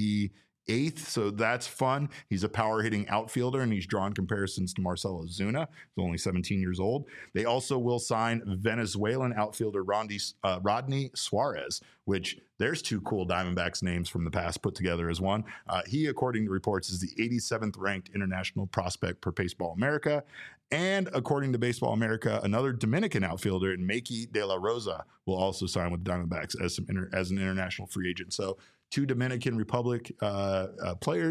28th, so that's fun. He's a power hitting outfielder, and he's drawn comparisons to Marcell Ozuna, who's only 17 years old. They also will sign Venezuelan outfielder Rodney Suarez, which there's 2 cool Diamondbacks names from the past put together as one. He, according to reports, is the 87th ranked international prospect per Baseball America. And according to Baseball America, another Dominican outfielder, Makey De La Rosa, will also sign with the Diamondbacks as an international free agent. So 2 Dominican Republic players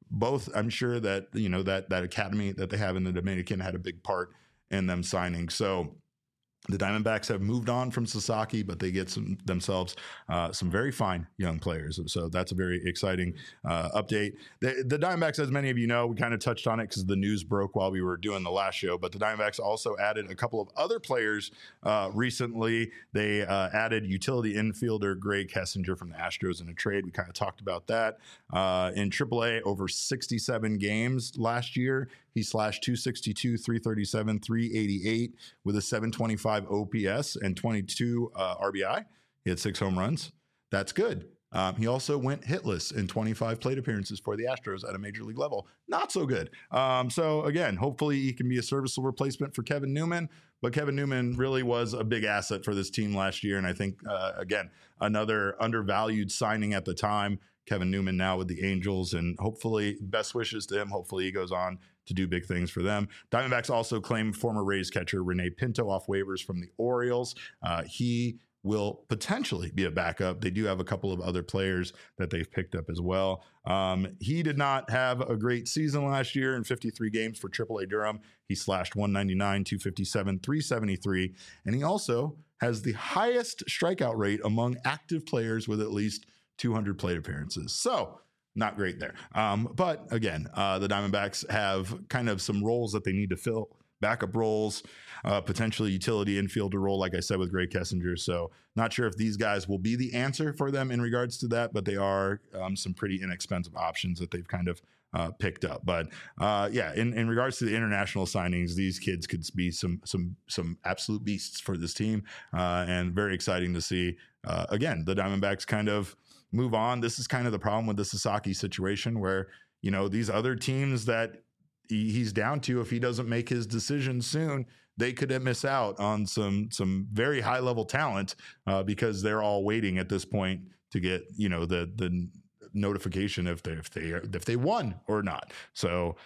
both, I'm sure that, that academy that they have in the Dominican had a big part in them signing. So the Diamondbacks have moved on from Sasaki, but they get themselves some very fine young players. So that's a very exciting update. The Diamondbacks, as many of you know, we kind of touched on it because the news broke while we were doing the last show, but the Diamondbacks also added a couple of other players recently. They added utility infielder Greg Kessinger from the Astros in a trade. We kind of talked about that. In AAA, over 67 games last year, he slashed 262, 337, 388 with a 725 OPS and 22 RBI. He had 6 home runs. That's good. He also went hitless in 25 plate appearances for the Astros at a major league level. Not so good. So again, hopefully he can be a serviceable replacement for Kevin Newman. But Kevin Newman really was a big asset for this team last year. And I think, again, another undervalued signing at the time. Kevin Newman now with the Angels, and hopefully best wishes to him. Hopefully he goes on to do big things for them. Diamondbacks also claimed former Rays catcher Rene Pinto off waivers from the Orioles. He will potentially be a backup. They do have a couple of other players that they've picked up as well. He did not have a great season last year in 53 games for AAA Durham. He slashed 199, 257, 373, and he also has the highest strikeout rate among active players with at least 200 plate appearances. So not great there. But again, the Diamondbacks have kind of some roles that they need to fill, backup roles, potentially utility infielder role, like I said, with Greg Kessinger. So not sure if these guys will be the answer for them in regards to that, but they are some pretty inexpensive options that they've kind of picked up. But in regards to the international signings, these kids could be some absolute beasts for this team, and very exciting to see. Again, the Diamondbacks kind of move on. This is kind of the problem with the Sasaki situation where, these other teams that he's down to, if he doesn't make his decision soon, they could miss out on some very high level talent because they're all waiting at this point to get, the notification if they won or not. So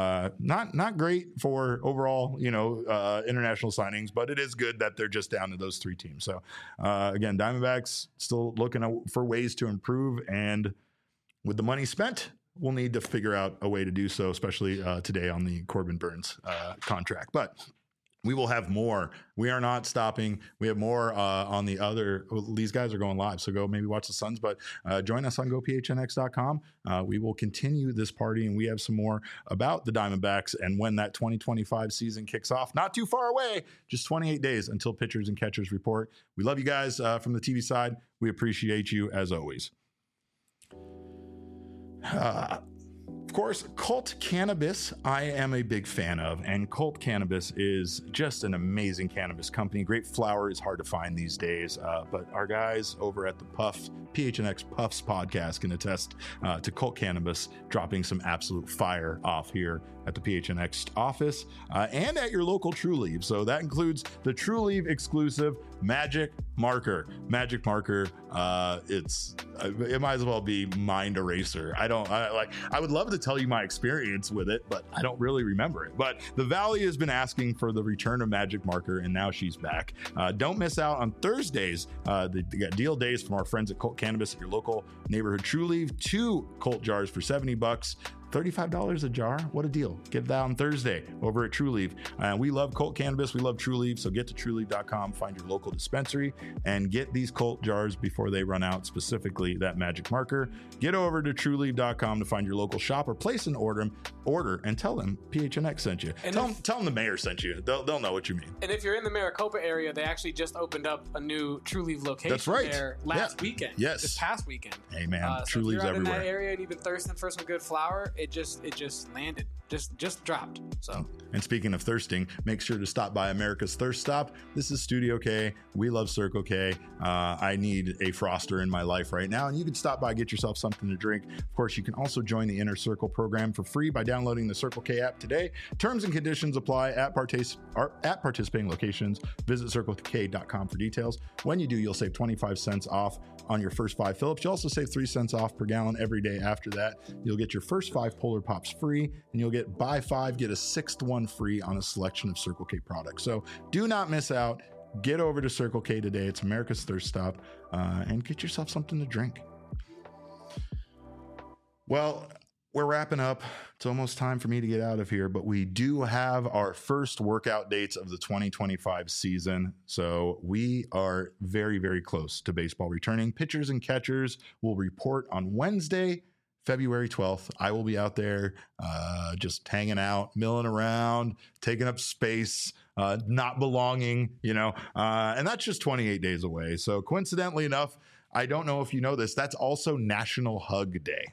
not great for overall, international signings, but it is good that they're just down to those 3 teams. So again, Diamondbacks still looking for ways to improve, and with the money spent, we'll need to figure out a way to do so, especially today on the Corbin Burnes contract. But we will have more. We are not stopping. We have more on the other. These guys are going live, so go maybe watch the Suns, but join us on gophnx.com. We will continue this party, and we have some more about the Diamondbacks and when that 2025 season kicks off. Not too far away, just 28 days until pitchers and catchers report. We love you guys from the TV side. We appreciate you as always. Of course, Cult Cannabis, I am a big fan of, and Cult Cannabis is just an amazing cannabis company. Great flower is hard to find these days, but our guys over at the PHNX Puffs podcast can attest to Cult Cannabis dropping some absolute fire off here at the PHNX office and at your local Trulieve. So that includes the Trulieve exclusive Magic Marker. Magic Marker, it might as well be Mind Eraser. I would love to tell you my experience with it, but I don't really remember it. But the Valley has been asking for the return of Magic Marker, and now she's back. Don't miss out on Thursdays. They got deal days from our friends at Cult Cannabis at your local neighborhood Trulieve. 2 Cult jars for $70. $35 a jar. What a deal. Get that on Thursday over at Trulieve. We love Cult Cannabis. We love Trulieve. So get to Trulieve.com, find your local dispensary, and get these Cult jars before they run out, specifically that Magic Marker. Get over to Trulieve.com to find your local shop or place an order and tell them PHNX sent you. And tell them the mayor sent you. They'll know what you mean. And if you're in the Maricopa area, they actually just opened up a new Trulieve location. That's right. There last weekend. Yes. This past weekend. Hey man, so Trulieve's if you're out everywhere. in that area and you've been thirsting for some good flour, it just landed. Just dropped. So. And speaking of thirsting, make sure to stop by America's Thirst Stop. This is Studio K. We love Circle K. I need a Froster in my life right now, and you can stop by, get yourself something to drink. Of course, you can also join the Inner Circle program for free by downloading the Circle K app today. Terms and conditions apply at participating locations. Visit CircleK.com for details. When you do, you'll save 25 cents off on your first 5 Phillips. You also save 3 cents off per gallon every day after that. You'll get your first 5 Polar Pops free, and you'll get buy 5, get a 6th one free on a selection of Circle K products. So do not miss out. Get over to Circle K today. It's America's Thirst Stop, and get yourself something to drink. Well, we're wrapping up. It's almost time for me to get out of here, but we do have our first workout dates of the 2025 season. So we are very, very close to baseball returning. Pitchers and catchers will report on Wednesday, February 12th. I will be out there just hanging out, milling around, taking up space, not belonging, and that's just 28 days away. So coincidentally enough, I don't know if you know this, that's also National Hug Day.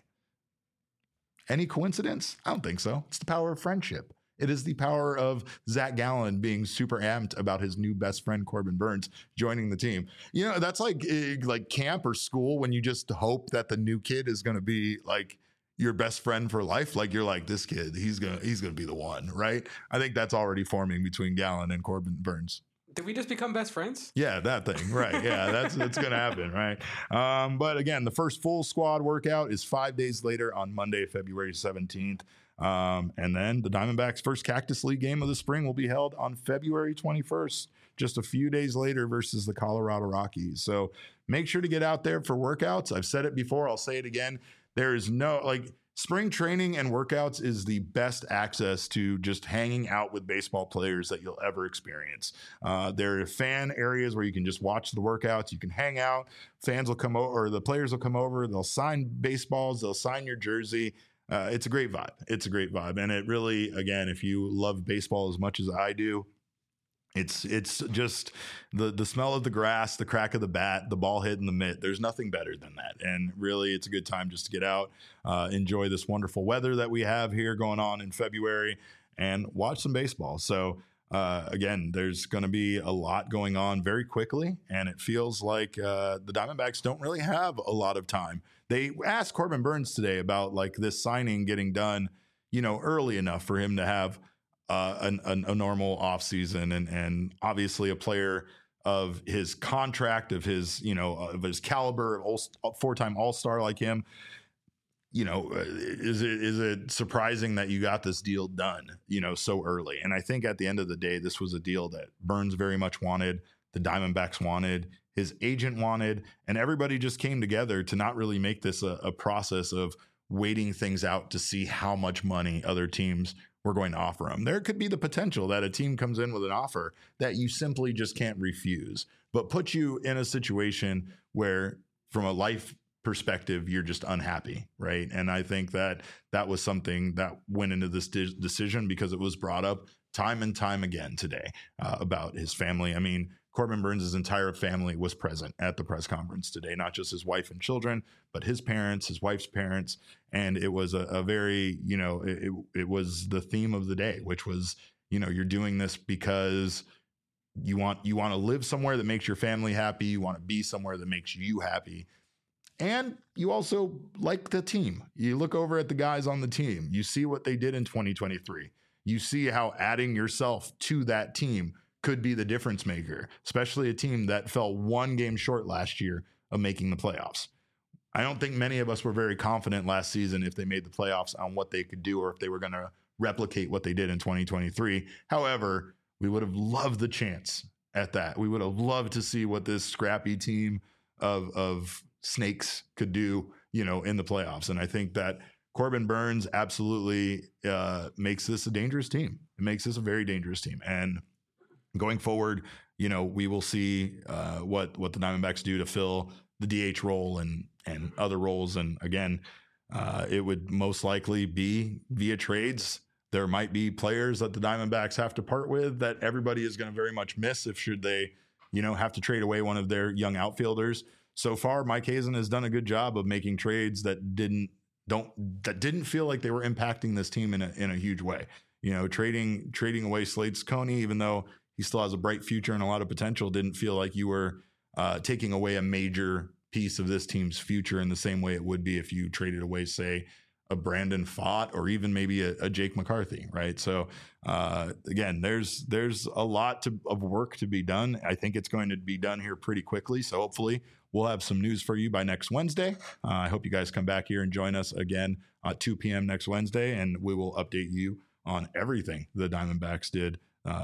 Any coincidence? I don't think so. It's the power of friendship. It is the power of Zach Gallen being super amped about his new best friend, Corbin Burnes, joining the team. That's like camp or school when you just hope that the new kid is going to be like your best friend for life. Like you're like, this kid, he's gonna be the one, right? I think that's already forming between Gallen and Corbin Burnes. Did we just become best friends? Yeah, that thing, right? Yeah, that's going to happen, right? But again, the first full squad workout is 5 days later on Monday, February 17th. And then the Diamondbacks' first Cactus League game of the spring will be held on February 21st, just a few days later versus the Colorado Rockies. So make sure to get out there for workouts. I've said it before. I'll say it again. There is no spring training and workouts is the best access to just hanging out with baseball players that you'll ever experience. There are fan areas where you can just watch the workouts. You can hang out. Fans will come over, or the players will come over. They'll sign baseballs. They'll sign your jersey. It's a great vibe. It's a great vibe. And it really, again, if you love baseball as much as I do, it's just the smell of the grass, the crack of the bat, the ball hit in the mitt. There's nothing better than that. And really, it's a good time just to get out, enjoy this wonderful weather that we have here going on in February, and watch some baseball. So again, there's going to be a lot going on very quickly, and it feels like the Diamondbacks don't really have a lot of time. They asked Corbin Burnes today about this signing getting done, early enough for him to have a normal offseason, and obviously a player of his contract, of his caliber, of four-time All-Star like him. Is it surprising that you got this deal done, so early? And I think at the end of the day, this was a deal that Burnes very much wanted, the Diamondbacks wanted, his agent wanted, and everybody just came together to not really make this a process of waiting things out to see how much money other teams were going to offer him. There could be the potential that a team comes in with an offer that you simply just can't refuse, but put you in a situation where, from a life perspective, you're just unhappy, right? And I think that was something that went into this decision, because it was brought up time and time again today about his family. I mean, Corbin Burnes' entire family was present at the press conference today, not just his wife and children, but his parents, his wife's parents. And it was a very, it was the theme of the day, which was, you're doing this because you want to live somewhere that makes your family happy. You want to be somewhere that makes you happy. And you also like the team. You look over at the guys on the team. You see what they did in 2023. You see how adding yourself to that team could be the difference maker, especially a team that fell one game short last year of making the playoffs. I don't think many of us were very confident last season if they made the playoffs on what they could do, or if they were going to replicate what they did in 2023. However, we would have loved the chance at that. We would have loved to see what this scrappy team of snakes could do, in the playoffs. And I think that Corbin Burnes absolutely makes this a dangerous team. It makes this a very dangerous team. And going forward, we will see what the Diamondbacks do to fill the DH role and other roles. And again, it would most likely be via trades. There might be players that the Diamondbacks have to part with that everybody is going to very much miss should they, have to trade away one of their young outfielders. So far, Mike Hazen has done a good job of making trades that didn't feel like they were impacting this team in a huge way. Trading away Slade Cecconi, even though he still has a bright future and a lot of potential, didn't feel like you were taking away a major piece of this team's future in the same way it would be if you traded away, say, a Brandon Pfaadt or even maybe a Jake McCarthy, right? So again, there's a lot of work to be done. I think it's going to be done here pretty quickly. So hopefully we'll have some news for you by next Wednesday. I hope you guys come back here and join us again at 2 p.m. next Wednesday, and we will update you on everything the Diamondbacks did.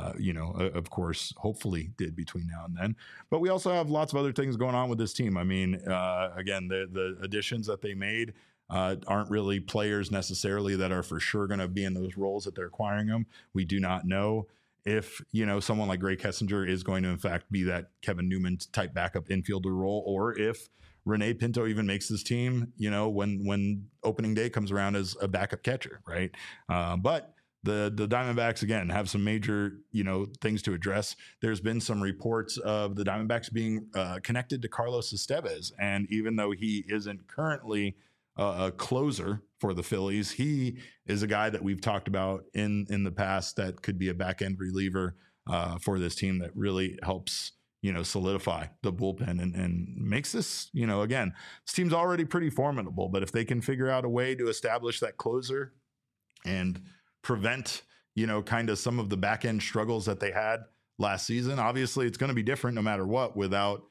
Of course, hopefully did between now and then. But we also have lots of other things going on with this team. I mean, again, the additions that they made aren't really players necessarily that are for sure going to be in those roles that they're acquiring them. We do not know if, someone like Gray Kessinger is going to, in fact, be that Kevin Newman type backup infielder role, or if Rene Pinto even makes this team, when opening day comes around as a backup catcher, right? But the Diamondbacks, again, have some major, things to address. There's been some reports of the Diamondbacks being connected to Carlos Estevez. And even though he isn't currently a closer for the Phillies, he is a guy that we've talked about in the past that could be a back-end reliever for this team that really helps, solidify the bullpen and makes this, again, this team's already pretty formidable. But if they can figure out a way to establish that closer and prevent, kind of some of the back end struggles that they had last season. Obviously, it's going to be different no matter what without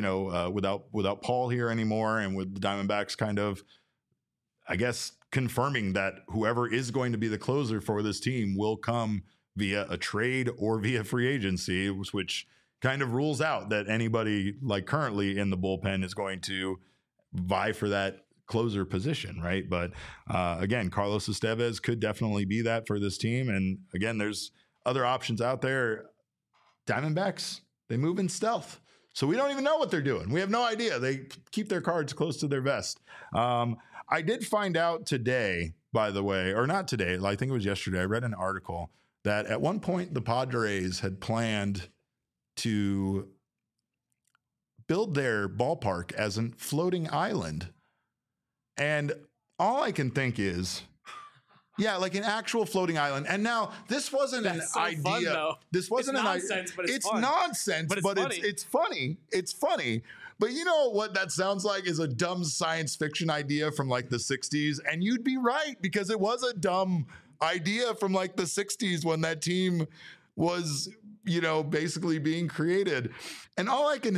Paul here anymore, and with the Diamondbacks kind of, I guess, confirming that whoever is going to be the closer for this team will come via a trade or via free agency, which kind of rules out that anybody like currently in the bullpen is going to vie for that closer position, right? But again, Carlos Estevez could definitely be that for this team. And again, there's other options out there. Diamondbacks, they move in stealth, so we don't even know what they're doing. We have no idea. They keep their cards close to their vest. I did find out today, by the way, or not today, I think it was yesterday, I read an article that at one point the Padres had planned to build their ballpark as a floating island. And all I can think is, like an actual floating island. And now this wasn't an idea. Fun, though. This wasn't it's nonsense, but it's fun. nonsense, but it's funny. It's funny. But you know what that sounds like is a dumb science fiction idea from like the 60s. And you'd be right, because it was a dumb idea from like the 60s when that team was, basically being created. And all I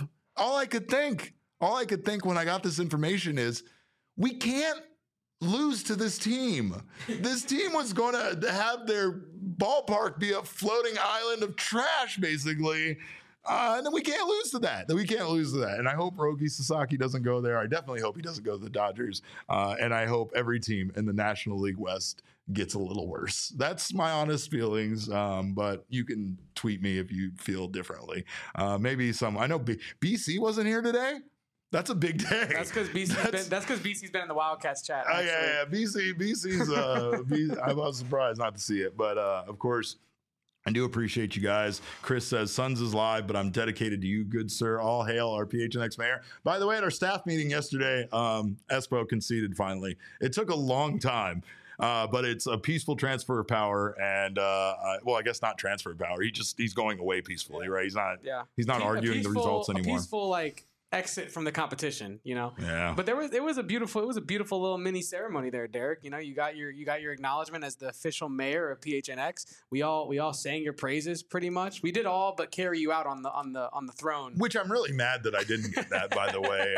could think when I got this information is, we can't lose to this team. This team was going to have their ballpark be a floating island of trash, basically. And then we can't lose to that. And I hope Roki Sasaki doesn't go there. I definitely hope he doesn't go to the Dodgers. And I hope every team in the National League West gets a little worse. That's my honest feelings. But you can tweet me if you feel differently. I know BC wasn't here today. That's a big day. That's because BC's been in the Wildcats chat. Yeah. BC's. I was surprised not to see it, but of course, I do appreciate you guys. Chris says Suns is live, but I'm dedicated to you, good sir. All hail our PHNX mayor. By the way, at our staff meeting yesterday, Espo conceded finally. It took a long time. But it's a peaceful transfer of power, and I guess not transfer of power. He's going away peacefully, right? He's not arguing the results anymore. A peaceful exit from the competition, Yeah. But it was a beautiful little mini ceremony there, Derek. You got your acknowledgement as the official mayor of PHNX. We all sang your praises pretty much. We did all but carry you out on the throne. Which I'm really mad that I didn't get that, by the way.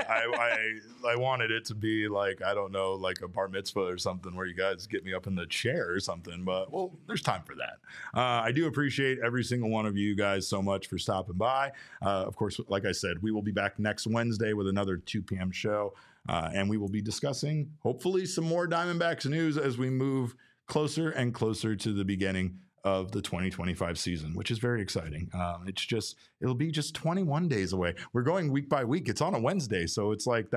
I wanted it to be like, I don't know, like a bar mitzvah or something where you guys get me up in the chair or something, but well, there's time for that. I do appreciate every single one of you guys so much for stopping by. Of course, like I said, we will be back next Wednesday with another 2 p.m. show, and we will be discussing hopefully some more Diamondbacks news as we move closer and closer to the beginning of the 2025 season, which is very exciting. It'll be just 21 days away. We're going week by week. It's on a Wednesday, so it's like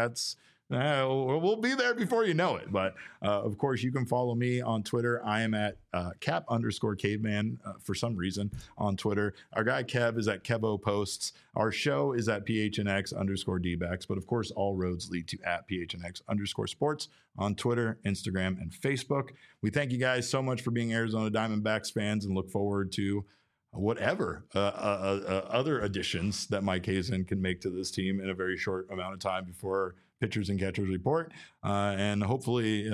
we'll be there before you know it. But of course, you can follow me on Twitter. I am at Cap_Caveman for some reason on Twitter. Our guy Kev is at Kevo Posts. Our show is at PHNX_DBacks. But of course, all roads lead to at PHNX_Sports on Twitter, Instagram, and Facebook. We thank you guys so much for being Arizona Diamondbacks fans and look forward to whatever other additions that Mike Hazen can make to this team in a very short amount of time before pitchers and catchers report, and hopefully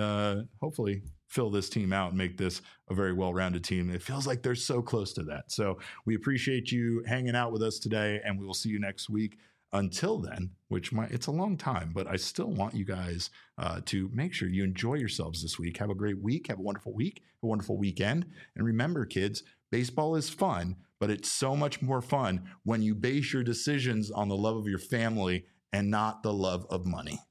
fill this team out and make this a very well-rounded team. It feels like they're so close to that. So we appreciate you hanging out with us today, and we will see you next week. Until then, it's a long time, but I still want you guys to make sure you enjoy yourselves this week. Have a great week. Have a wonderful week, a wonderful weekend. And remember, kids, baseball is fun, but it's so much more fun when you base your decisions on the love of your family and not the love of money.